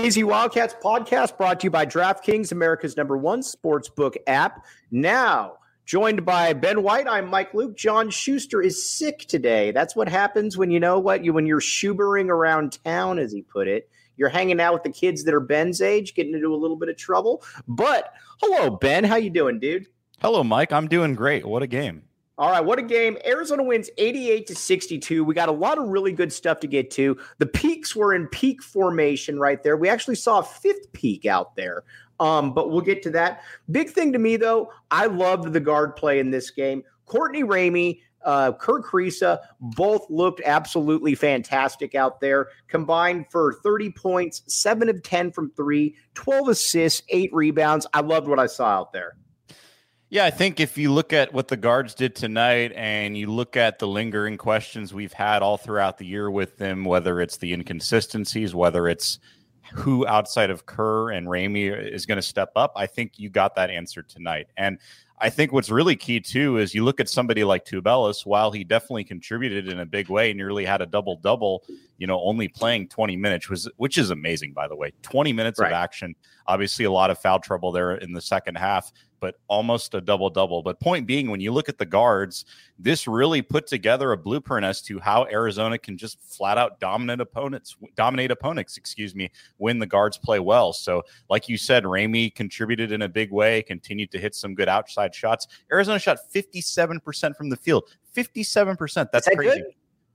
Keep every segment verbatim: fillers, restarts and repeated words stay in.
Easy Wildcats podcast brought to you by DraftKings, America's number one sportsbook app. Now, joined by Ben White, I'm Mike Luke. John Schuster is sick today. That's what happens when you know what you when you're Schubering around town, as he put it. You're hanging out with the kids that are Ben's age, getting into a little bit of trouble. But hello, Ben. How you doing, dude? Hello, Mike. I'm doing great. What a game. All right, what a game. Arizona wins eighty-eight to sixty-two. We got a lot of really good stuff to get to. The peaks were in peak formation right there. We actually saw a fifth peak out there, um, but we'll get to that. Big thing to me, though, I loved the guard play in this game. Courtney Ramey, uh, Kerr Kriisa, both looked absolutely fantastic out there. Combined for thirty points, seven of ten from three, twelve assists, eight rebounds. I loved what I saw out there. Yeah, I think if you look at what the guards did tonight and you look at the lingering questions we've had all throughout the year with them, whether it's the inconsistencies, whether it's who outside of Kerr and Ramey is going to step up, I think you got that answer tonight. And I think what's really key, too, is you look at somebody like Tubelis, while he definitely contributed in a big way, nearly had a double-double, you know, only playing twenty minutes, was, which is amazing, by the way. twenty minutes right. of action. Obviously, a lot of foul trouble there in the second half, but almost a double-double. But point being, when you look at the guards, this really put together a blueprint as to how Arizona can just flat-out dominate opponents, dominate opponents, excuse me, when the guards play well. So, like you said, Ramey contributed in a big way, continued to hit some good outside shots. Arizona shot fifty-seven percent from the field. fifty-seven percent. That's that crazy. Good?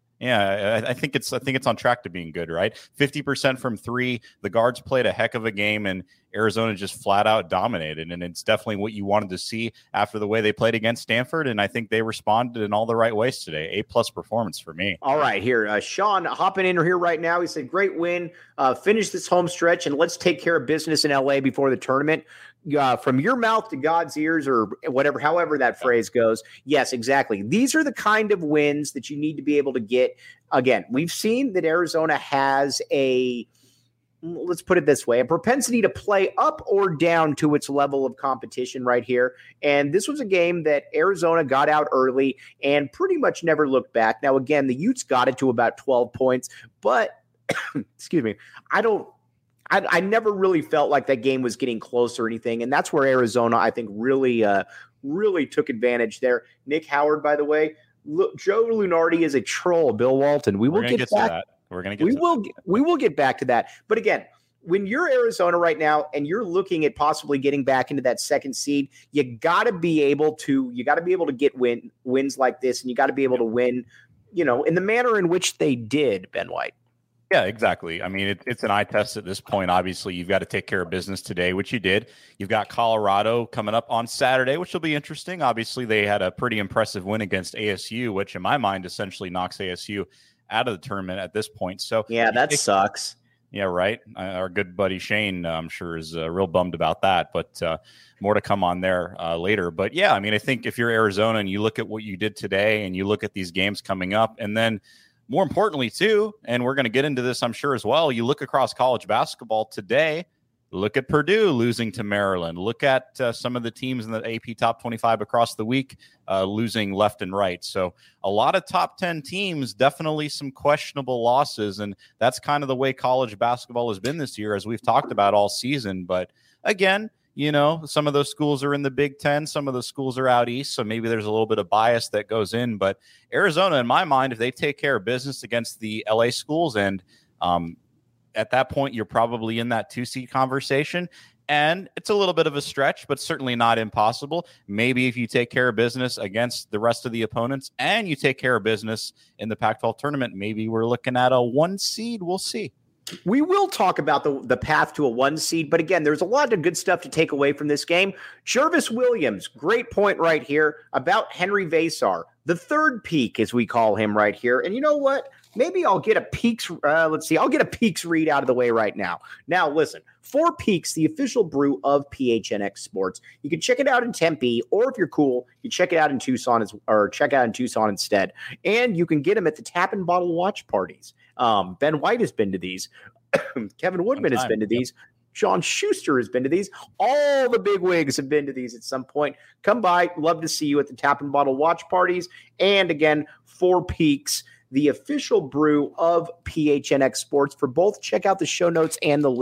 Yeah, I, I think it's I think it's on track to being good, right? fifty percent from three. The guards played a heck of a game, and Arizona just flat out dominated. And it's definitely what you wanted to see after the way they played against Stanford. And I think they responded in all the right ways today. A plus performance for me. All right, here, uh, Sean hopping in here right now. He said, "Great win. Uh, finish this home stretch, and let's take care of business in L A before the tournament." Uh, from your mouth to God's ears, or whatever, however that phrase goes. Yes, exactly. These are the kind of wins that you need to be able to get. Again, we've seen that Arizona has a, let's put it this way, a propensity to play up or down to its level of competition right here. And this was a game that Arizona got out early and pretty much never looked back. Now, again, the Utes got it to about twelve points, but excuse me, I don't, I, I never really felt like that game was getting close or anything, and that's where Arizona, I think, really, uh, really took advantage there. Nick Howard, by the way, look, Joe Lunardi is a troll. Bill Walton, we will get, get back. To that. We're gonna get. We to will. That. We will get back to that. But again, when you're Arizona right now and you're looking at possibly getting back into that second seed, you got to be able to. You got to be able to get win wins like this, and you got to be able to win, you know, in the manner in which they did, Ben White. Yeah, exactly. I mean, it, it's an eye test at this point. Obviously, you've got to take care of business today, which you did. You've got Colorado coming up on Saturday, which will be interesting. Obviously, they had a pretty impressive win against A S U, which in my mind essentially knocks A S U out of the tournament at this point. So yeah, that it, sucks. Yeah, right. Uh, our good buddy Shane, uh, I'm sure, is uh, real bummed about that, but uh, more to come on there uh, later. But yeah, I mean, I think if you're Arizona and you look at what you did today and you look at these games coming up, and then more importantly, too, and we're going to get into this, I'm sure, as well, you look across college basketball today, look at Purdue losing to Maryland. Look at uh, some of the teams in the A P Top twenty-five across the week uh, losing left and right. So a lot of top ten teams, definitely some questionable losses, and that's kind of the way college basketball has been this year, as we've talked about all season. But again, you know, some of those schools are in the Big Ten. Some of those schools are out east. So maybe there's a little bit of bias that goes in. But Arizona, in my mind, if they take care of business against the L A schools, and um, at that point, you're probably in that two-seed conversation. And it's a little bit of a stretch, but certainly not impossible. Maybe if you take care of business against the rest of the opponents and you take care of business in the Pac twelve tournament, maybe we're looking at a one seed. We'll see. We will talk about the, the path to a one seed, but again, there's a lot of good stuff to take away from this game. Jervis Williams, great point right here about Henry Vasar, the third peak, as we call him right here. And you know what? Maybe I'll get a peaks. Uh, let's see. I'll get a peaks read out of the way right now. Now, listen, Four Peaks, the official brew of P H N X Sports. You can check it out in Tempe, or if you're cool, you check it out in Tucson, as, or check it out in Tucson instead. And you can get them at the Tap and Bottle watch parties. Um, Ben White has been to these. Kevin Woodman has been to these. Yep. John Schuster has been to these. All the big wigs have been to these at some point. Come by. Love to see you at the Tap and Bottle watch parties. And again, Four Peaks, the official brew of P H N X Sports. For both, check out the show notes and the link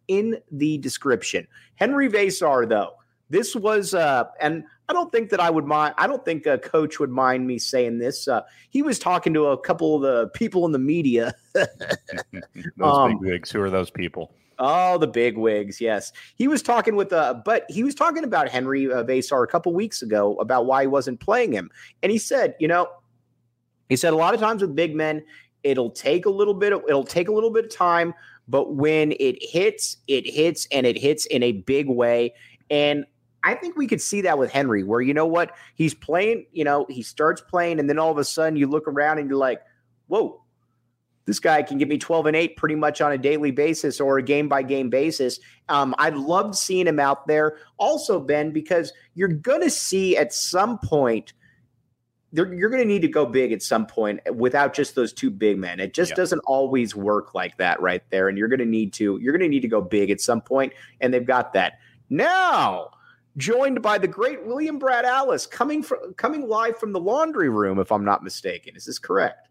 in the description. Henry Vesar, though, this was, uh, and I don't think that I would mind, I don't think a coach would mind me saying this. Uh, he was talking to a couple of the people in the media. Those um, big wigs. Who are those people? Oh, the big wigs. Yes. He was talking with, uh, but he was talking about Henry uh, Vesar a couple weeks ago about why he wasn't playing him. And he said, you know, he said a lot of times with big men, it'll take a little bit of, it'll take a little bit of time, but when it hits, it hits and it hits in a big way. And I think we could see that with Henry, where, you know what, he's playing, you know, he starts playing, and then all of a sudden you look around and you're like, whoa, this guy can give me twelve and eight pretty much on a daily basis or a game by game basis. Um, I loved seeing him out there. Also, Ben, because you're going to see at some point, you're going to need to go big at some point without just those two big men. It just yeah. doesn't always work like that right there. And you're going to need to, you're going to need to go big at some point, and they've got that. Now, joined by the great William Brad Alice, coming from coming live from the laundry room, if I'm not mistaken. Is this correct?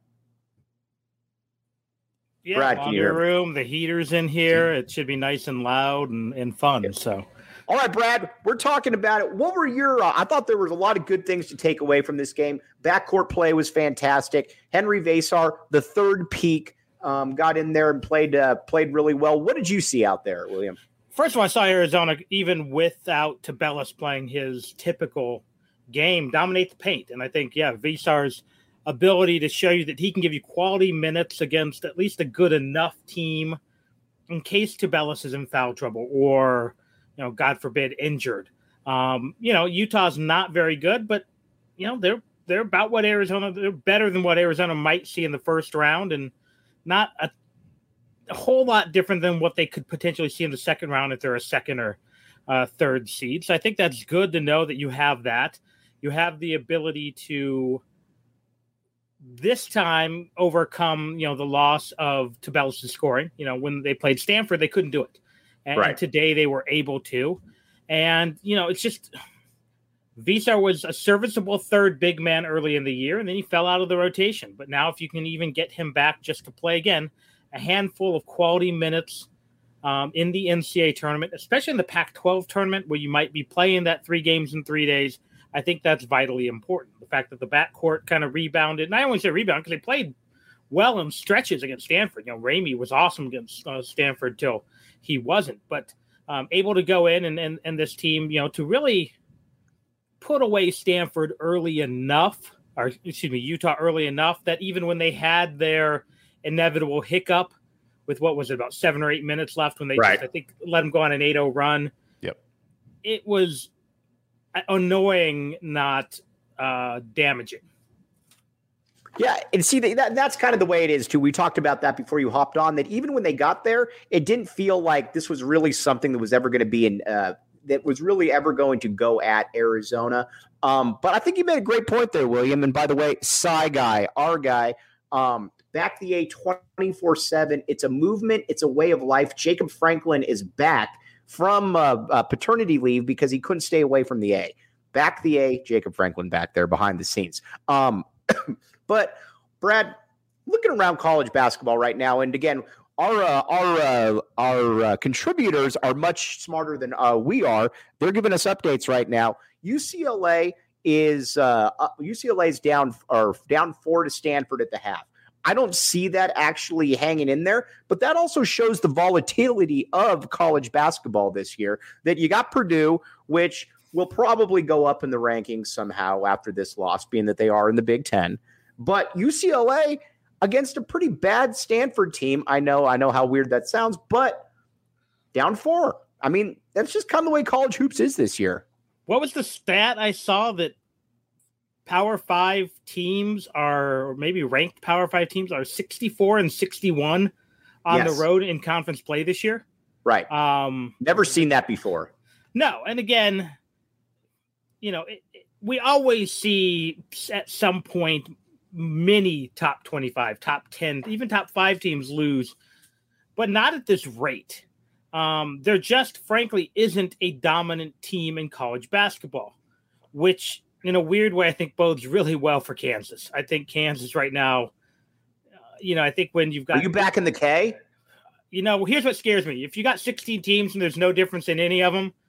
Yeah, Brad, laundry room. The heater's in here. It should be nice and loud and, and fun. Yeah. So, all right, Brad, we're talking about it. What were your? Uh, I thought there was a lot of good things to take away from this game. Backcourt play was fantastic. Henry Vesar, the third peak, um, got in there and played uh, played really well. What did you see out there, William? First of all, I saw Arizona, even without Tubelis playing his typical game, dominate the paint. And I think, yeah, Vesar's ability to show you that he can give you quality minutes against at least a good enough team in case Tubelis is in foul trouble or, you know, God forbid, injured. Um, you know, Utah's not very good, but, you know, they're they're about what Arizona, they're better than what Arizona might see in the first round, and not a a whole lot different than what they could potentially see in the second round if they're a second or uh, third seed. So I think that's good to know that you have that. You have the ability to this time overcome, you know, the loss of Tubelis' scoring. You know, when they played Stanford, they couldn't do it. And, right. and today they were able to. And, you know, it's just Vesar was a serviceable third big man early in the year, and then he fell out of the rotation. But now if you can even get him back just to play again, a handful of quality minutes um, in the N C A A tournament, especially in the Pac twelve tournament where you might be playing that three games in three days. I think that's vitally important. The fact that the backcourt kind of rebounded, and I only say rebound because they played well in stretches against Stanford. You know, Ramey was awesome against uh, Stanford till he wasn't, but um, able to go in and, and, and this team, you know, to really put away Stanford early enough, or excuse me, Utah early enough that even when they had their inevitable hiccup with what was it, about seven or eight minutes left when they right. just, I think, let them go on an eight oh run. Yep. It was annoying, not uh, damaging. Yeah, and see, that that's kind of the way it is, too. We talked about that before you hopped on, that even when they got there, it didn't feel like this was really something that was ever going to be in uh, that was really ever going to go at Arizona. Um, but I think you made a great point there, William. And by the way, Psy guy, our guy, um, Back the A twenty-four seven. It's a movement. It's a way of life. Jacob Franklin is back from uh, uh, paternity leave because he couldn't stay away from the A. Back the A, Jacob Franklin back there behind the scenes. Um, but, Brad, looking around college basketball right now, and again, our uh, our uh, our uh, contributors are much smarter than uh, we are. They're giving us updates right now. U C L A is uh, uh, U C L A is down or down four to Stanford at the half. I don't see that actually hanging in there, but that also shows the volatility of college basketball this year, that you got Purdue, which will probably go up in the rankings somehow after this loss, being that they are in the Big Ten. But U C L A against a pretty bad Stanford team. I know, I know how weird that sounds, but down four. I mean, that's just kind of the way college hoops is this year. What was the stat I saw that Power Five teams are, or maybe ranked Power Five teams are sixty-four and sixty-one on yes. the road in conference play this year? Right. Um, Never seen that before. No. And again, you know, it, it, we always see at some point many top twenty-five, top ten, even top five teams lose, but not at this rate. Um, there just frankly isn't a dominant team in college basketball, which in a weird way, I think bodes really well for Kansas. I think Kansas right now, uh, you know, I think when you've got... Are you back in the K? you know, here's what scares me. If you got sixteen teams and there's no difference in any of them,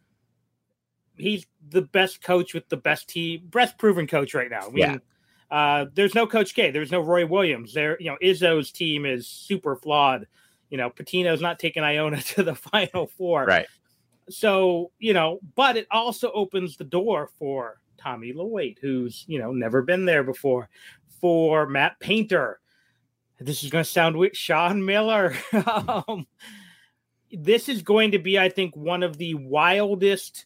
he's the best coach with the best team, best proven coach right now. I mean, Yeah. uh, there's no Coach K. There's no Roy Williams. There, you know, Izzo's team is super flawed. You know, Patino's not taking Iona to the Final Four. Right. So, you know, but it also opens the door for Tommy Lloyd, who's, you know, never been there before, for Matt Painter. This is going to sound weird. Sean Miller. um, this is going to be, I think, one of the wildest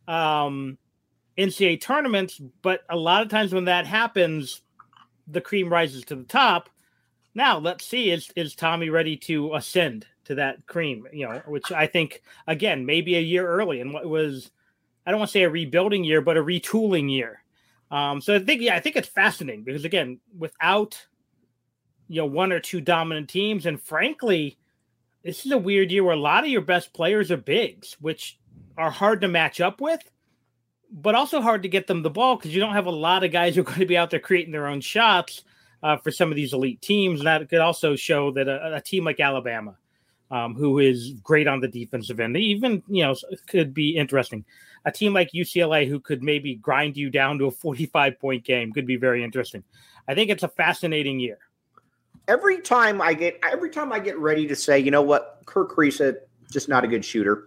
um, N C double A tournaments. But a lot of times when that happens, the cream rises to the top. Now, let's see, is, is Tommy ready to ascend to that cream, you know, which I think, again, maybe a year early and what was, I don't want to say a rebuilding year, but a retooling year. Um, so I think, yeah, I think it's fascinating because, again, without, you know, one or two dominant teams, and frankly, this is a weird year where a lot of your best players are bigs, which are hard to match up with, but also hard to get them the ball because you don't have a lot of guys who are going to be out there creating their own shots uh, for some of these elite teams. And that could also show that a, a team like Alabama, um, who is great on the defensive end, even, you know, could be interesting. A team like U C L A who could maybe grind you down to a forty-five point game could be very interesting. I think it's a fascinating year. Every time I get, every time I get ready to say, you know what, Kirk Kriisa, just not a good shooter.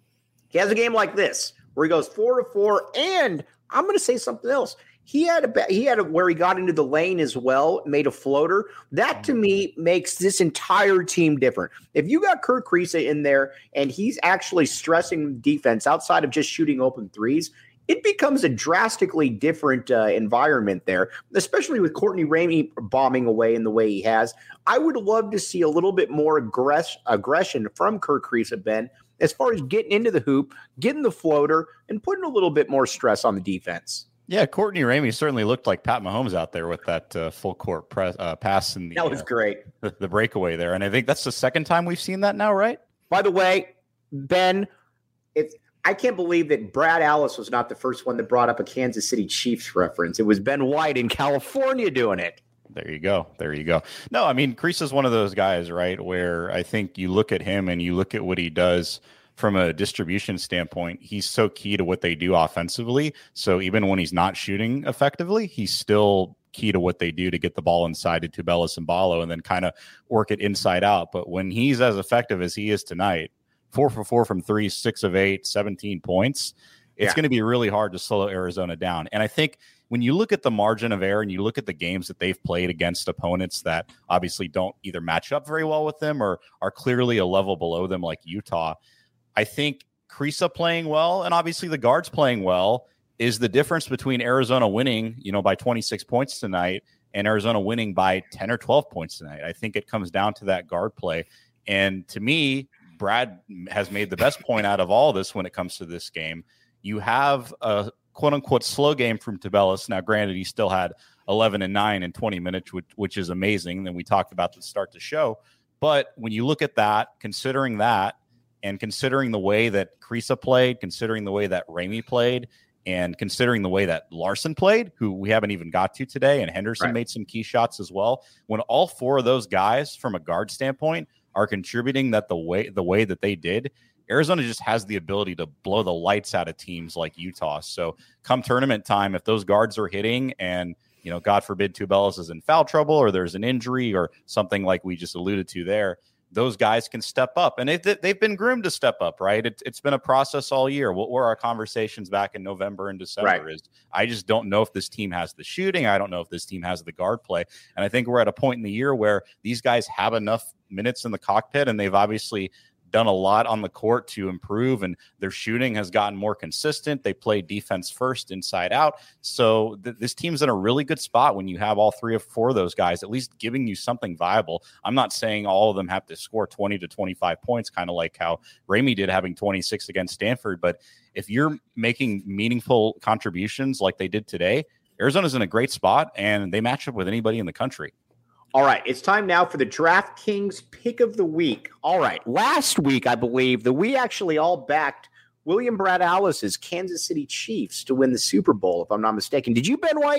He has a game like this where he goes four to four, and I'm going to say something else. He had a he had a where he got into the lane as well, made a floater. That to me makes this entire team different. If you got Kirk Kriisa in there and he's actually stressing defense outside of just shooting open threes, it becomes a drastically different uh, environment there, especially with Courtney Ramey bombing away in the way he has. I would love to see a little bit more aggress- aggression from Kirk Kriisa, Ben, as far as getting into the hoop, getting the floater, and putting a little bit more stress on the defense. Yeah, Courtney Ramey certainly looked like Pat Mahomes out there with that uh, full court press, uh, pass in the, that was uh, great. The, the breakaway there. And I think that's the second time we've seen that now, right? By the way, Ben, it's I can't believe that Brad Allis was not the first one that brought up a Kansas City Chiefs reference. It was Ben White in California doing it. There you go. There you go. No, I mean, Kriisa is one of those guys, right, where I think you look at him and you look at what he does from a distribution standpoint. He's so key to what they do offensively. So even when he's not shooting effectively, he's still key to what they do to get the ball inside to Tubelis and Ballo and then kind of work it inside out. But when he's as effective as he is tonight, four for four from three, six of eight, seventeen points, it's yeah. going to be really hard to slow Arizona down. And I think when you look at the margin of error and you look at the games that they've played against opponents that obviously don't either match up very well with them or are clearly a level below them like Utah, I think Kriisa playing well and obviously the guards playing well is the difference between Arizona winning, you know, by twenty-six points tonight and Arizona winning by ten or twelve points tonight. I think it comes down to that guard play. And to me, Brad has made the best point out of all this when it comes to this game. You have a quote-unquote slow game from Tubelis. Now, granted, he still had eleven and nine in twenty minutes, which, which is amazing. And we talked about the start to show. But when you look at that, considering that, and considering the way that Kriisa played, considering the way that Ramey played, and considering the way that Larson played, who we haven't even got to today, and Henderson right. made some key shots as well. When all four of those guys, from a guard standpoint, are contributing that the way the way that they did, Arizona just has the ability to blow the lights out of teams like Utah. So come tournament time, if those guards are hitting and, you know, God forbid Tubelis is in foul trouble or there's an injury or something like we just alluded to there, those guys can step up. And they've, they've been groomed to step up, right? It, it's been a process all year. What were our conversations back in November and December right. is I just don't know if this team has the shooting. I don't know if this team has the guard play. And I think we're at a point in the year where these guys have enough minutes in the cockpit, and they've obviously done a lot on the court to improve, and their shooting has gotten more consistent. They play defense first, inside out. So th- this team's in a really good spot when you have all three or four of those guys at least giving you something viable. I'm not saying all of them have to score twenty to twenty-five points, kind of like how Ramey did having twenty-six against Stanford. But if you're making meaningful contributions like they did today, Arizona's in a great spot, and they match up with anybody in the country. All right, it's time now for the DraftKings Pick of the Week. All right, last week, I believe, that we actually all backed William Brad Allis's Kansas City Chiefs to win the Super Bowl, if I'm not mistaken. Did you, Ben White?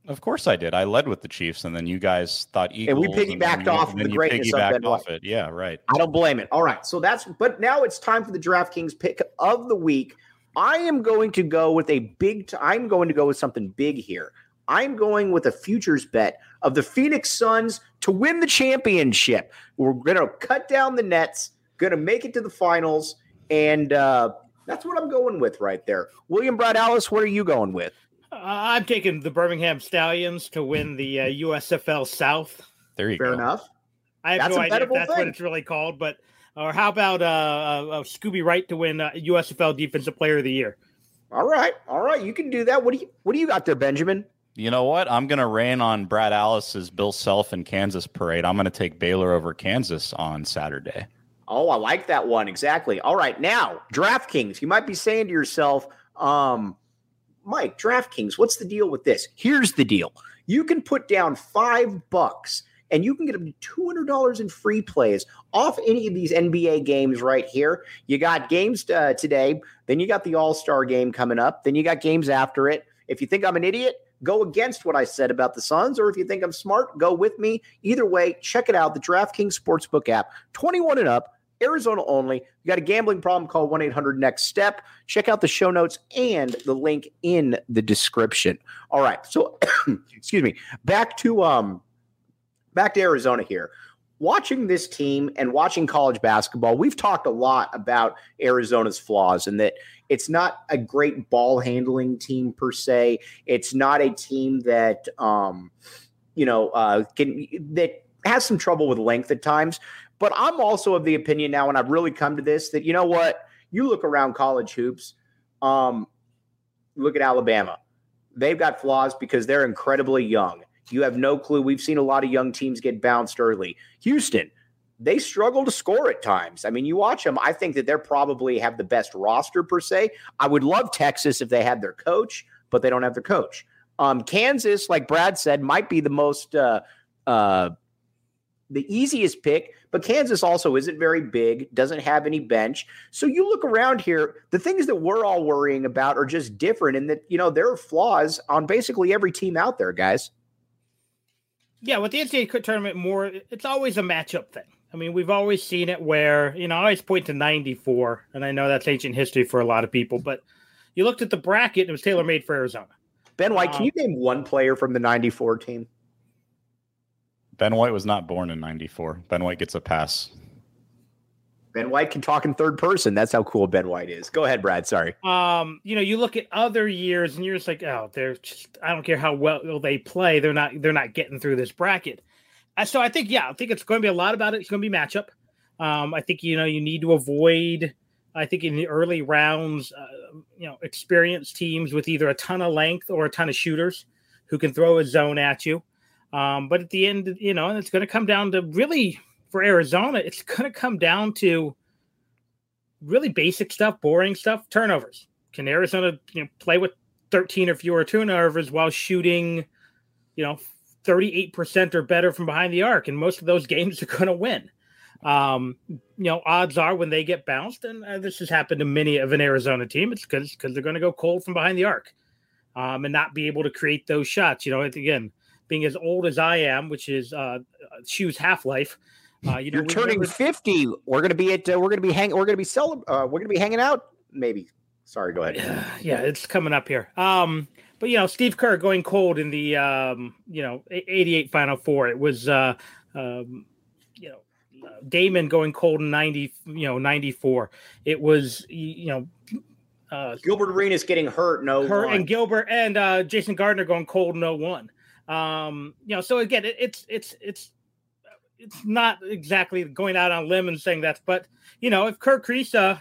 Of course I did. I led with the Chiefs, and then you guys thought Eagles. And we piggybacked off of the greatness of Ben White. It. Yeah, right. I don't blame it. All right. So that's, but now it's time for the DraftKings pick of the week. I am going to go with a big, t- I'm going to go with something big here. I'm going with a futures bet of the Phoenix Suns to win the championship. We're going to cut down the nets, going to make it to the finals, and uh, that's what I'm going with right there. William Brad Alice, what are you going with? Uh, I'm taking the Birmingham Stallions to win the uh, U S F L South. There you Fair go. Fair enough. I have that's no idea if that's thing. what it's really called, but or how about uh, uh, Scooby Wright to win uh, U S F L Defensive Player of the Year? All right, all right, you can do that. What do you What do you got there, Benjamin? You know what? I'm going to rain on Brad Alice's Bill Self and Kansas parade. I'm going to take Baylor over Kansas on Saturday. Oh, I like that one. Exactly. All right. Now, DraftKings, you might be saying to yourself, um, Mike, DraftKings, what's the deal with this? Here's the deal. You can put down five bucks and you can get up to two hundred dollars in free plays off any of these N B A games right here. You got games uh, today. Then you got the All-Star game coming up. Then you got games after it. If you think I'm an idiot, go against what I said about the Suns, or if you think I'm smart, go with me. Either way, check it out, the DraftKings Sportsbook app, twenty-one and up, Arizona only. You got a gambling problem, call one eight hundred next step. Check out the show notes and the link in the description. All right, so, excuse me, back to um, back to Arizona here. Watching this team and watching college basketball, we've talked a lot about Arizona's flaws and that it's not a great ball handling team per se. It's not a team that, um, you know, uh, can that has some trouble with length at times. But I'm also of the opinion now, and I've really come to this, that, you know what, you look around college hoops, um, look at Alabama. They've got flaws because they're incredibly young. You have no clue. We've seen a lot of young teams get bounced early. Houston, they struggle to score at times. I mean, you watch them. I think that they're probably have the best roster per se. I would love Texas if they had their coach, but they don't have their coach. Um, Kansas, like Brad said, might be the most uh, uh, the easiest pick, but Kansas also isn't very big, doesn't have any bench. So you look around here, the things that we're all worrying about are just different, and that, you know, there are flaws on basically every team out there, guys. Yeah, with the N C double A tournament, more it's always a matchup thing. I mean, we've always seen it where, you know, I always point to ninety-four, and I know that's ancient history for a lot of people, but you looked at the bracket, and it was tailor-made for Arizona. Ben White, um, can you name one player from the ninety-four team? Ben White was not born in ninety-four. Ben White gets a pass. Ben White can talk in third person. That's how cool Ben White is. Go ahead, Brad. Sorry. Um, you know, you look at other years and you're just like, oh, they're just, I don't care how well they play. They're not, they're not getting through this bracket. Uh, so I think, yeah, I think it's going to be a lot about it. It's going to be matchup. Um, I think, you know, you need to avoid, I think in the early rounds, uh, you know, experienced teams with either a ton of length or a ton of shooters who can throw a zone at you. Um, but at the end, you know, it's going to come down to really, for Arizona, it's going to come down to really basic stuff, boring stuff, turnovers. Can Arizona, you know, play with thirteen or fewer turnovers while shooting, you know, thirty-eight percent or better from behind the arc? And most of those games are going to win. Um, you know, odds are when they get bounced, and uh, this has happened to many of an Arizona team, it's because because they're going to go cold from behind the arc um, and not be able to create those shots. You know, again, being as old as I am, which is uh, Shoe's half-life, Uh, you know, You're turning remember- fifty. We're gonna be at. Uh, we're gonna be hang. We're gonna be cel- uh, We're gonna be hanging out. Maybe. Sorry. Go ahead. Yeah, yeah, it's coming up here. Um, but you know, Steve Kerr going cold in the um, you know, eighty-eight Final Four. It was uh, um, you know, Damon going cold in ninety. You know, ninety-four. It was you know. Uh, Gilbert Arenas getting hurt. No. Her and Gilbert and uh, Jason Gardner going cold in oh one. Um, you know, so again, it, it's it's it's. It's not exactly going out on a limb and saying that, but you know, if Kirk Kriisa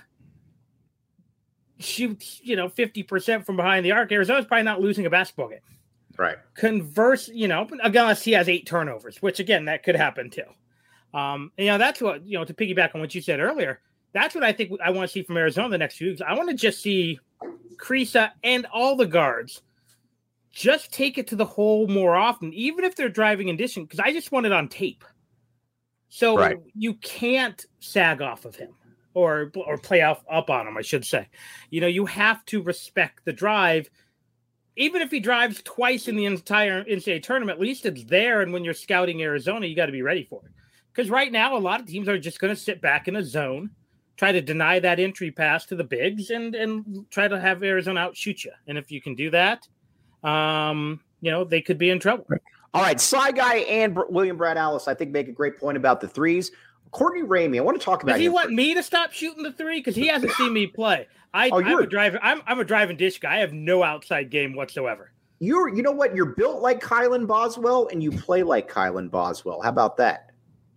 shoots, you know, fifty percent from behind the arc, Arizona's probably not losing a basketball game. Right. Converse, you know, unless he has eight turnovers, which again, that could happen too. Um, and, you know, that's what, you know, to piggyback on what you said earlier, that's what I think I want to see from Arizona the next few weeks. I want to just see Kriisa and all the guards just take it to the hole more often, even if they're driving in distance, because I just want it on tape. So right. You can't sag off of him or or play off up on him, I should say. You know, you have to respect the drive even if he drives twice in the entire N C double A tournament, at least it's there. And when you're scouting Arizona, you got to be ready for it. Because right now, a lot of teams are just going to sit back in a zone, try to deny that entry pass to the bigs, and and try to have Arizona outshoot you. And if you can do that, um, you know, they could be in trouble. All right, Cy Guy and William Brad Alice, I think, make a great point about the threes. Courtney Ramey, I want to talk about. Does he want me to stop shooting the three? Because he hasn't seen me play. I, oh, I'm a driver. I'm I'm a drive and dish guy. I have no outside game whatsoever. You're, you know what? You're built like Kylan Boswell, and you play like Kylan Boswell. How about that?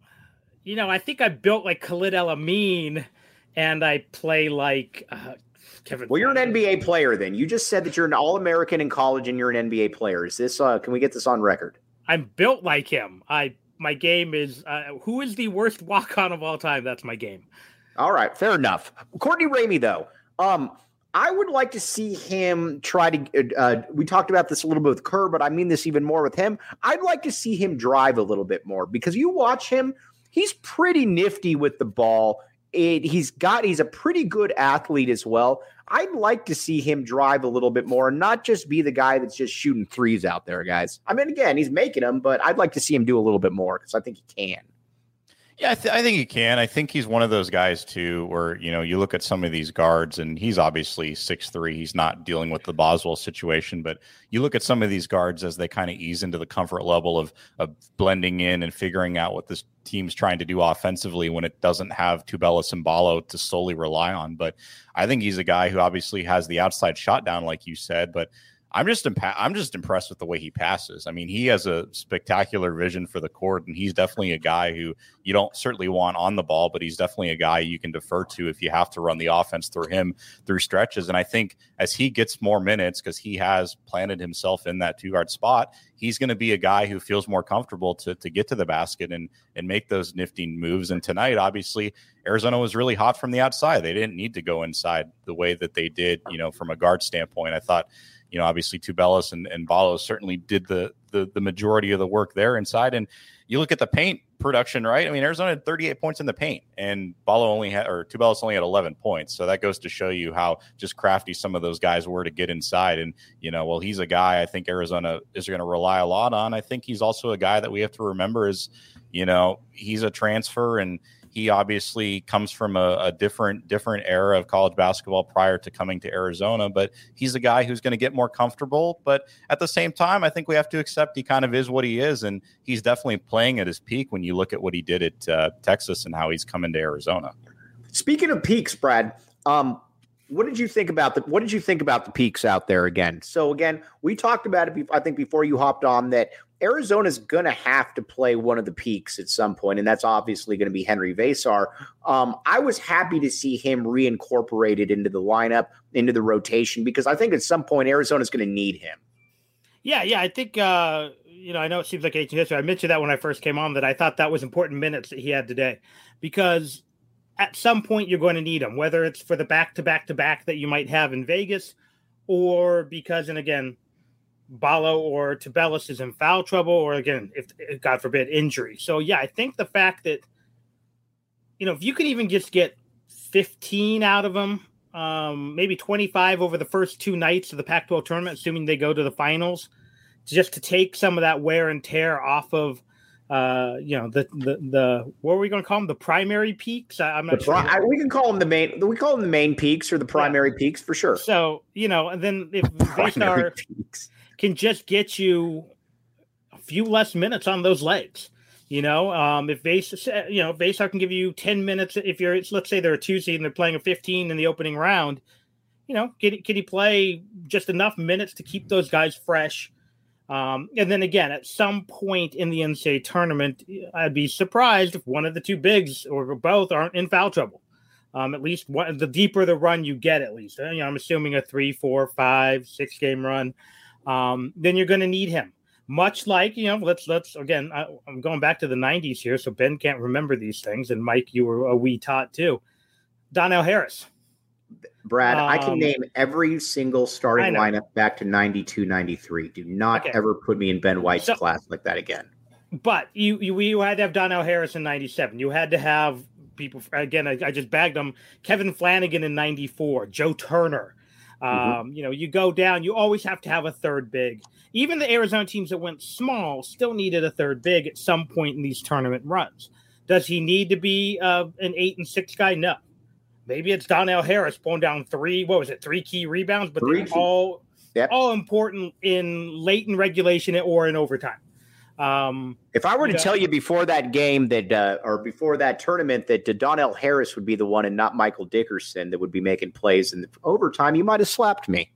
You know, I think I built like Khalid El-Amin, and I play like uh, Kevin. Well, you're an N B A player. Then you just said that you're an All-American in college, and you're an N B A player. Is this? Uh, can we get this on record? I'm built like him. I my game is uh, who is the worst walk-on of all time? That's my game. All right, fair enough. Courtney Ramey, though. Um, I would like to see him try to uh, – we talked about this a little bit with Kerr, but I mean this even more with him. I'd like to see him drive a little bit more because you watch him, he's pretty nifty with the ball. It, he's got – he's a pretty good athlete as well. I'd like to see him drive a little bit more and not just be the guy that's just shooting threes out there, guys. I mean, again, he's making them, but I'd like to see him do a little bit more because I think he can. Yeah, I, th- I think he can. I think he's one of those guys, too, where, you know, you look at some of these guards, and he's obviously six three. He's not dealing with the Boswell situation, but you look at some of these guards as they kind of ease into the comfort level of, of blending in and figuring out what this team's trying to do offensively when it doesn't have Tubelis and Ballo to solely rely on. But I think he's a guy who obviously has the outside shot down, like you said, but I'm just impa- I'm just impressed with the way he passes. I mean, he has a spectacular vision for the court, and he's definitely a guy who you don't certainly want on the ball, but he's definitely a guy you can defer to if you have to run the offense through him through stretches. And I think as he gets more minutes, because he has planted himself in that two-guard spot, he's going to be a guy who feels more comfortable to to get to the basket and and make those nifty moves. And tonight, obviously, Arizona was really hot from the outside. They didn't need to go inside the way that they did, you know, from a guard standpoint. I thought, you know, obviously Tubelis and, and Ballo certainly did the, the the majority of the work there inside. And you look at the paint production, right? I mean, Arizona had thirty-eight points in the paint, and Ballo only had, or Tubelis only had eleven points. So that goes to show you how just crafty some of those guys were to get inside. And, you know, well, he's a guy I think Arizona is going to rely a lot on. I think he's also a guy that we have to remember is, you know, he's a transfer, and he obviously comes from a, a different different era of college basketball prior to coming to Arizona, but he's a guy who's going to get more comfortable. But at the same time, I think we have to accept he kind of is what he is, and he's definitely playing at his peak when you look at what he did at uh, Texas and how he's coming to Arizona. Speaking of peaks, Brad, um, what did you think about the what did you think about the peaks out there again? So again, we talked about it, I think, before you hopped on, that Arizona's going to have to play one of the peaks at some point, and that's obviously going to be Henry Versar. Um, I was happy to see him reincorporated into the lineup, into the rotation, because I think at some point Arizona's going to need him. Yeah, yeah, I think, uh, you know, I know it seems like ancient history. I mentioned that when I first came on, that I thought that was important minutes that he had today, because at some point you're going to need him, whether it's for the back-to-back-to-back that you might have in Vegas, or because, and again, Ballo or Tubelis is in foul trouble, or again, if, if God forbid, injury. So yeah, I think the fact that, you know, if you can even just get fifteen out of them, um, maybe twenty-five over the first two nights of the Pac twelve tournament, assuming they go to the finals, just to take some of that wear and tear off of, uh, you know, the the the what are we going to call them? The primary peaks. I, I'm not the sure. Pri- I, we can call them the main. We call them the main peaks or the primary yeah. peaks for sure. So you know, and then if Versar can just get you a few less minutes on those legs, you know, um, if Versar, you know, Versar can give you ten minutes. If you're, let's say they're a two seed and they're playing a fifteen in the opening round, you know, can, can he play just enough minutes to keep those guys fresh? Um, and then again, at some point in the N C double A tournament, I'd be surprised if one of the two bigs or both aren't in foul trouble. Um, at least one, the deeper the run you get, at least, you know, I'm assuming a three, four, five, six game run. Um, then you're going to need him. Much like, you know, let's, let's again, I, I'm going back to the nineties here, so Ben can't remember these things. And Mike, you were a wee tot too. Donnell Harris. Brad, um, I can name every single starting lineup back to ninety-two, ninety-three. Do not okay. ever put me in Ben White's so, class like that again. But you, you, you had to have Donnell Harris in ninety-seven. You had to have people, again, I, I just bagged them. Kevin Flanagan in ninety-four, Joe Turner. Um, Mm-hmm. You know, you go down, you always have to have a third big. Even the Arizona teams that went small still needed a third big at some point in these tournament runs. Does he need to be uh, an eight and six guy? No. Maybe it's Donnell Harris pulling down three, what was it, three key rebounds, but Three they're key. all, Yep. all important in late in regulation or in overtime. Um, If I were to yeah. tell you before that game that, uh, or before that tournament, that uh, Donnell Harris would be the one and not Michael Dickerson that would be making plays in the overtime, you might have slapped me.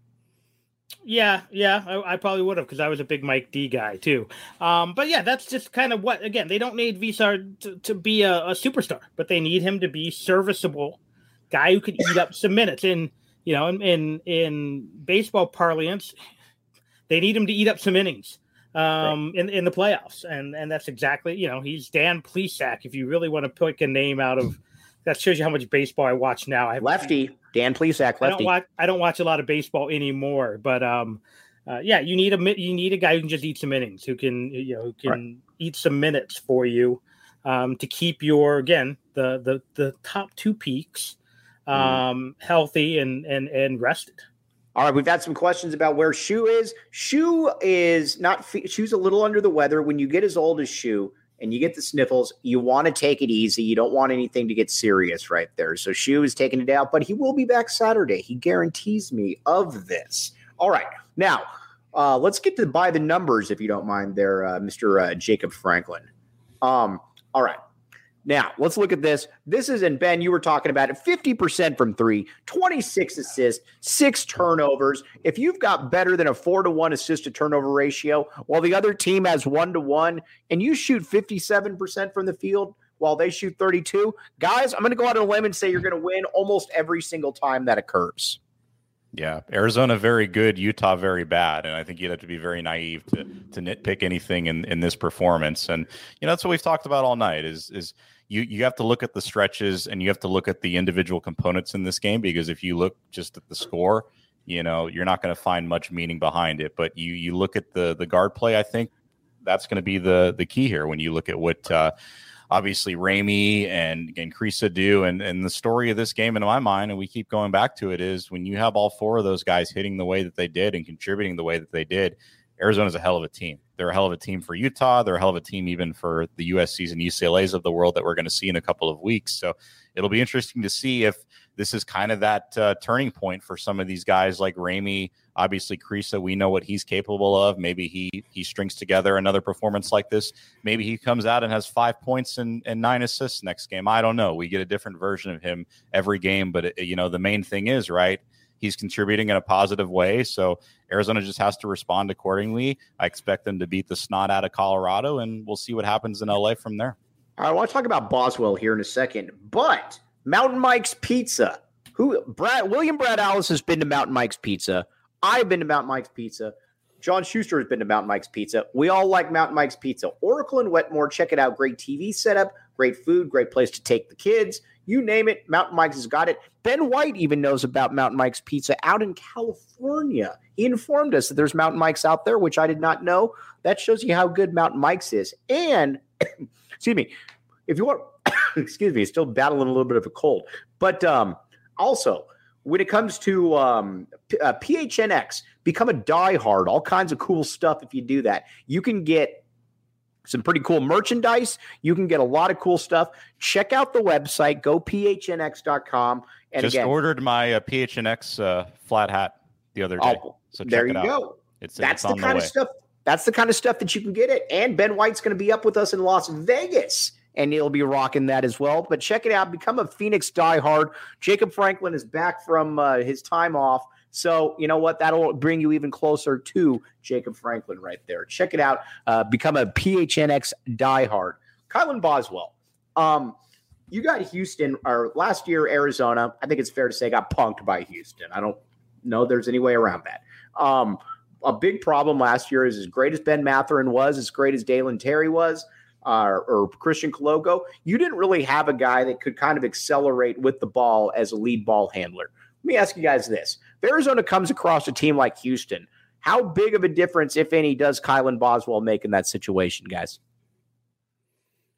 Yeah, yeah, I, I probably would have because I was a big Mike D guy too. Um, but yeah, that's just kind of what, again, they don't need Visar to, to be a, a superstar, but they need him to be serviceable guy who could eat up some minutes. And, you know, in, in, in baseball parlance, they need him to eat up some innings um, right. in, in the playoffs. And, and that's exactly, you know, he's Dan Plesac. If you really want to pick a name out of, that shows you how much baseball I watch now. I have Lefty, Dan Plesac, lefty. I don't watch. I don't watch a lot of baseball anymore, but um, uh, yeah, you need a you need a guy who can just eat some innings, who can you know who can right. eat some minutes for you um, to keep your again the the the top two peaks um, mm. healthy and and and rested. All right, we've had some questions about where Shu is. Shu is not. Shu's a little under the weather. When you get as old as Shu and you get the sniffles, you want to take it easy. You don't want anything to get serious right there. So Shu is taking it out, but he will be back Saturday. He guarantees me of this. All right. Now, uh, let's get to buy the numbers, if you don't mind there, uh, Mister Uh, Jacob Franklin. Um, all right. Now, let's look at this. This is, and Ben, you were talking about it, fifty percent from three, twenty-six assists, six turnovers. If you've got better than a four to one assist to turnover ratio, while the other team has one to one, and you shoot fifty-seven percent from the field while they shoot thirty-two, guys, I'm going to go out on a limb and say you're going to win almost every single time that occurs. Yeah, Arizona very good, Utah very bad, and I think you'd have to be very naive to to nitpick anything in, in this performance. And you know that's what we've talked about all night. Is is you you have to look at the stretches and you have to look at the individual components in this game, because if you look just at the score, you know you're not going to find much meaning behind it. But you you look at the the guard play, I think that's going to be the the key here. When you look at what uh, obviously Ramey and, and Kriisa do. And, and the story of this game, in my mind, and we keep going back to it, is when you have all four of those guys hitting the way that they did and contributing the way that they did, Arizona's a hell of a team. They're a hell of a team for Utah. They're a hell of a team even for the U S Cs and U C L As of the world that we're going to see in a couple of weeks. So it'll be interesting to see if this is kind of that uh, turning point for some of these guys like Ramey. Obviously, Kriisa, we know what he's capable of. Maybe he he strings together another performance like this. Maybe he comes out and has five points and, and nine assists next game. I don't know. We get a different version of him every game. But, it, you know, the main thing is, right, he's contributing in a positive way. So Arizona just has to respond accordingly. I expect them to beat the snot out of Colorado, and we'll see what happens in L A from there. All right, I want to talk about Boswell here in a second, but Mountain Mike's Pizza. Who Brad William Brad Alice has been to Mountain Mike's Pizza. I've been to Mountain Mike's Pizza. John Schuster has been to Mountain Mike's Pizza. We all like Mountain Mike's Pizza. Oracle and Wetmore, check it out. Great T V setup, great food, great place to take the kids. You name it, Mountain Mike's has got it. Ben White even knows about Mountain Mike's Pizza out in California. He informed us that there's Mountain Mike's out there, which I did not know. That shows you how good Mountain Mike's is. And, excuse me, if you want, excuse me, still battling a little bit of a cold. But um, also, when it comes to um, uh, P H N X, become a diehard, all kinds of cool stuff if you do that. You can get some pretty cool merchandise. You can get a lot of cool stuff. Check out the website, go P H N X dot com. And Just again, ordered my uh, P H N X uh, flat hat the other day. Oh, so check there it you out. go. It's, That's it's the kind the of stuff. That's the kind of stuff that you can get it. And Ben White's going to be up with us in Las Vegas, and he'll be rocking that as well. But check it out. Become a Phoenix diehard. Jacob Franklin is back from uh, his time off. So, you know what? That'll bring you even closer to Jacob Franklin right there. Check it out. Uh, become a P H N X diehard. Kylan Boswell. Um, you got Houston, or last year, Arizona, I think it's fair to say, got punked by Houston. I don't know there's any way around that. Um, a big problem last year is, as great as Ben Mathurin was, as great as Dalen Terry was, Uh, or Christian Cologo, you didn't really have a guy that could kind of accelerate with the ball as a lead ball handler. Let me ask you guys this. If Arizona comes across a team like Houston, how big of a difference, if any, does Kylan Boswell make in that situation, guys?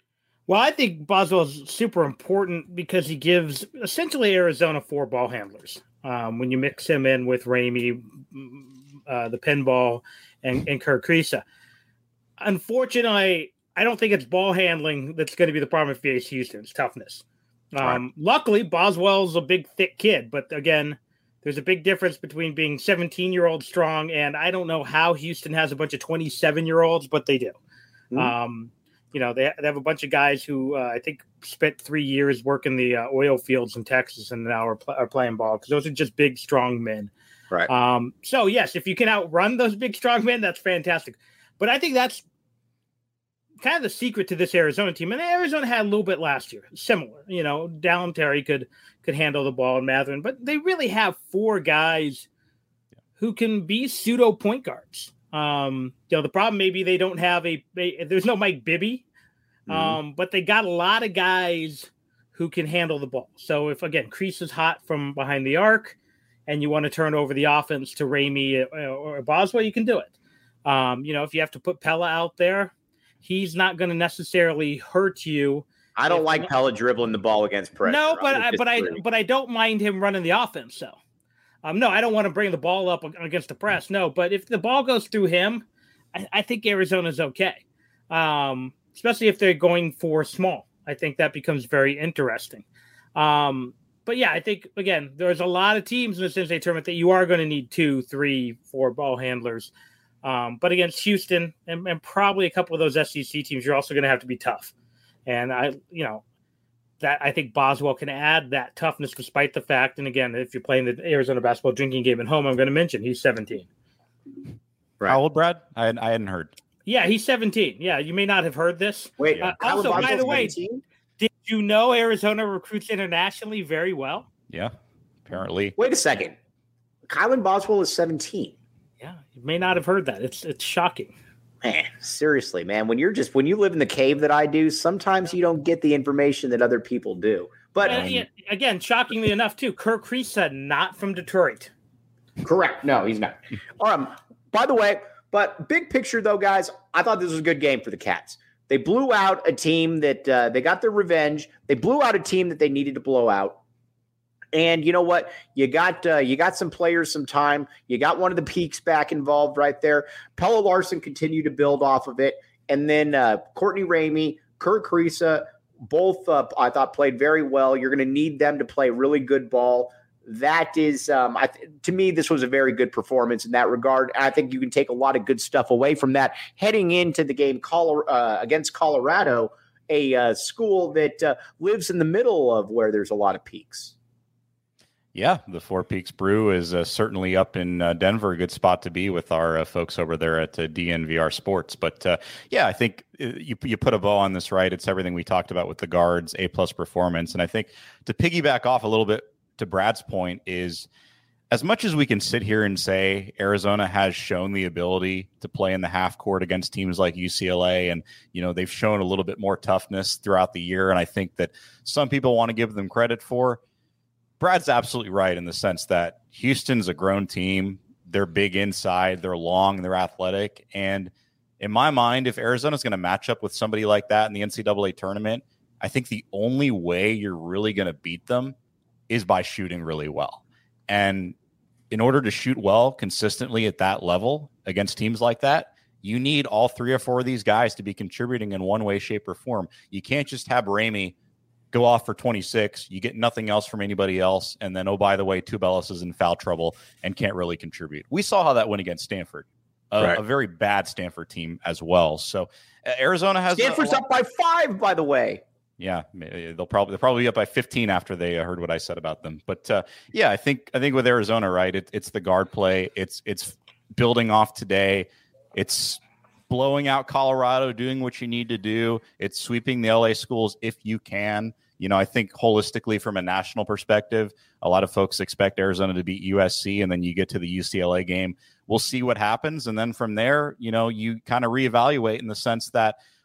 Well, I think Boswell is super important because he gives essentially Arizona four ball handlers. Um, when you mix him in with Ramey, uh, the pinball, and, and Kerr Kriisa. Unfortunately, I don't think it's ball handling that's going to be the problem if V A C Houston. It's toughness. Um, right. Luckily, Boswell's a big, thick kid. But again, there's a big difference between being seventeen-year-old strong, and I don't know how Houston has a bunch of twenty-seven-year-olds, but they do. Mm-hmm. Um, you know, they, they have a bunch of guys who uh, I think spent three years working the uh, oil fields in Texas and now are, pl- are playing ball because those are just big, strong men. Right. Um, so, yes, if you can outrun those big, strong men, that's fantastic. But I think that's kind of the secret to this Arizona team. And Arizona had a little bit last year, similar. You know, Dallin Terry could could handle the ball in Mathurin, but they really have four guys who can be pseudo point guards. Um, you know, the problem maybe they don't have a, a there's no Mike Bibby, um, mm-hmm. but they got a lot of guys who can handle the ball. So if again Kriisa is hot from behind the arc, and you want to turn over the offense to Ramey or, or Boswell, you can do it. Um, you know, if you have to put Pella out there, he's not going to necessarily hurt you. I don't like Pella dribbling the ball against pressure. No, but I, but I but I don't mind him running the offense. So. Um, no, I don't want to bring the ball up against the press. No, but if the ball goes through him, I, I think Arizona's okay, um, especially if they're going for small. I think that becomes very interesting. Um, but, yeah, I think, again, there's a lot of teams in the Cincinnati tournament that you are going to need two, three, four ball handlers. Um, but against Houston and, and probably a couple of those S E C teams, you're also going to have to be tough. And, I, you know, that I think Boswell can add that toughness despite the fact, and again, if you're playing the Arizona basketball drinking game at home, I'm going to mention he's seventeen. Right. How old, Brad? I, I hadn't heard. Yeah, he's seventeen. Yeah, you may not have heard this. Wait, uh, also, by the way, seventeen? Did you know Arizona recruits internationally very well? Yeah, apparently. Wait a second. Kylan Boswell is seventeen. Yeah, you may not have heard that. It's it's shocking. Man, seriously, man, when you're just when you live in the cave that I do, sometimes you don't get the information that other people do. But um, yeah, again, shockingly enough, too, Kerr Kriisa, not from Detroit. Correct. No, he's not. Um, by the way, but big picture, though, guys, I thought this was a good game for the Cats. They blew out a team that uh, they got their revenge. They blew out a team that they needed to blow out. And you know what? You got uh, you got some players some time. You got one of the peaks back involved right there. Pella Larson continued to build off of it. And then uh, Courtney Ramey, Kerr Kriisa, both uh, I thought played very well. You're going to need them to play really good ball. That is, um, I th- to me, this was a very good performance in that regard. I think you can take a lot of good stuff away from that heading into the game Colo- uh, against Colorado, a uh, school that uh, lives in the middle of where there's a lot of peaks. Yeah, the Four Peaks Brew is uh, certainly up in uh, Denver, a good spot to be with our uh, folks over there at uh, D N V R Sports. But uh, yeah, I think you you put a bow on this, right? It's everything we talked about with the guards, A plus performance. And I think to piggyback off a little bit to Brad's point is, as much as we can sit here and say Arizona has shown the ability to play in the half court against teams like U C L A, and you know they've shown a little bit more toughness throughout the year, and I think that some people want to give them credit for. Brad's absolutely right in the sense that Houston's a grown team. They're big inside. They're long. They're athletic. And in my mind, if Arizona's going to match up with somebody like that in the N C double A tournament, I think the only way you're really going to beat them is by shooting really well. And in order to shoot well consistently at that level against teams like that, you need all three or four of these guys to be contributing in one way, shape, or form. You can't just have Ramey go off for twenty-six, you get nothing else from anybody else, and then, oh, by the way, Tubelis is in foul trouble and can't really contribute. We saw how that went against Stanford, a, right. a very bad Stanford team as well. So uh, Arizona has Stanford's a, a up by five, by the way. Yeah, they'll probably they'll probably be up by fifteen after they uh, heard what I said about them. But uh, yeah, I think I think with Arizona, right, it, it's the guard play. It's it's building off today. It's blowing out Colorado, doing what you need to do. It's sweeping the L A schools if you can. You know, I think holistically from a national perspective, a lot of folks expect Arizona to beat U S C, and then you get to the U C L A game. We'll see what happens. And then from there, you know, you kind of reevaluate in the sense that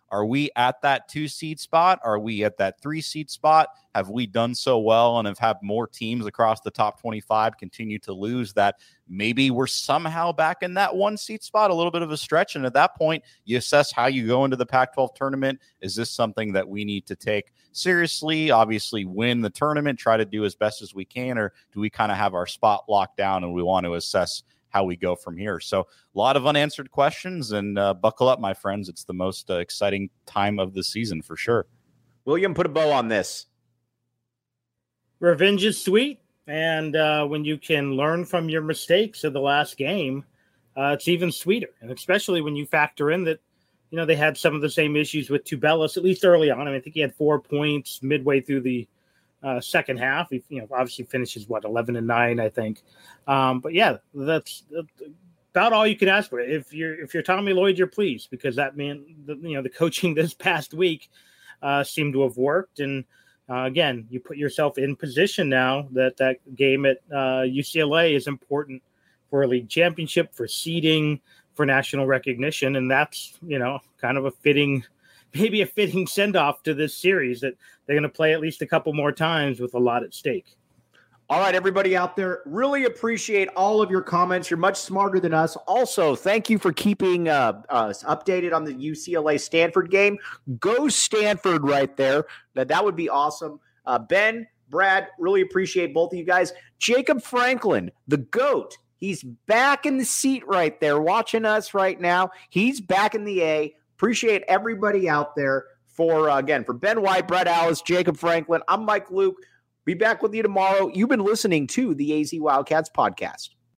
Are we at that two seed spot? Are we at that three seed spot? Have we done so well and have had more teams across the top twenty-five continue to lose that maybe we're somehow back in that one seed spot, a little bit of a stretch? And at that point, you assess how you go into the Pac twelve tournament. Is this something that we need to take seriously? Obviously, win the tournament, try to do as best as we can, or do we kind of have our spot locked down and we want to assess how we go from here? So a lot of unanswered questions, and uh, buckle up, my friends. It's the most uh, exciting time of the season for sure. William, put a bow on this. Revenge is sweet. And uh, when you can learn from your mistakes of the last game, uh, it's even sweeter. And especially when you factor in that, you know, they had some of the same issues with Tubelis, at least early on. I mean, I think he had four points midway through the uh, second half. He, you know, obviously finishes, what, eleven and nine, I think. Um, but, yeah, that's about all you can ask for. If you're if you're Tommy Lloyd, you're pleased, because that meant, the, you know, the coaching this past week uh, seemed to have worked. And, Uh, again, you put yourself in position now that that game at uh, U C L A is important for a league championship, for seeding, for national recognition. And that's, you know, kind of a fitting, maybe a fitting send-off to this series, that they're going to play at least a couple more times with a lot at stake. All right, everybody out there, really appreciate all of your comments. You're much smarter than us. Also, thank you for keeping uh, us updated on the U C L A Stanford game. Go Stanford right there. That, that would be awesome. Uh, Ben, Brad, really appreciate both of you guys. Jacob Franklin, the GOAT, he's back in the seat right there watching us right now. He's back in the A. Appreciate everybody out there. For, uh, again, for Ben White, Brett Alice, Jacob Franklin, I'm Mike Luke. Be back with you tomorrow. You've been listening to the A Z Wildcats podcast.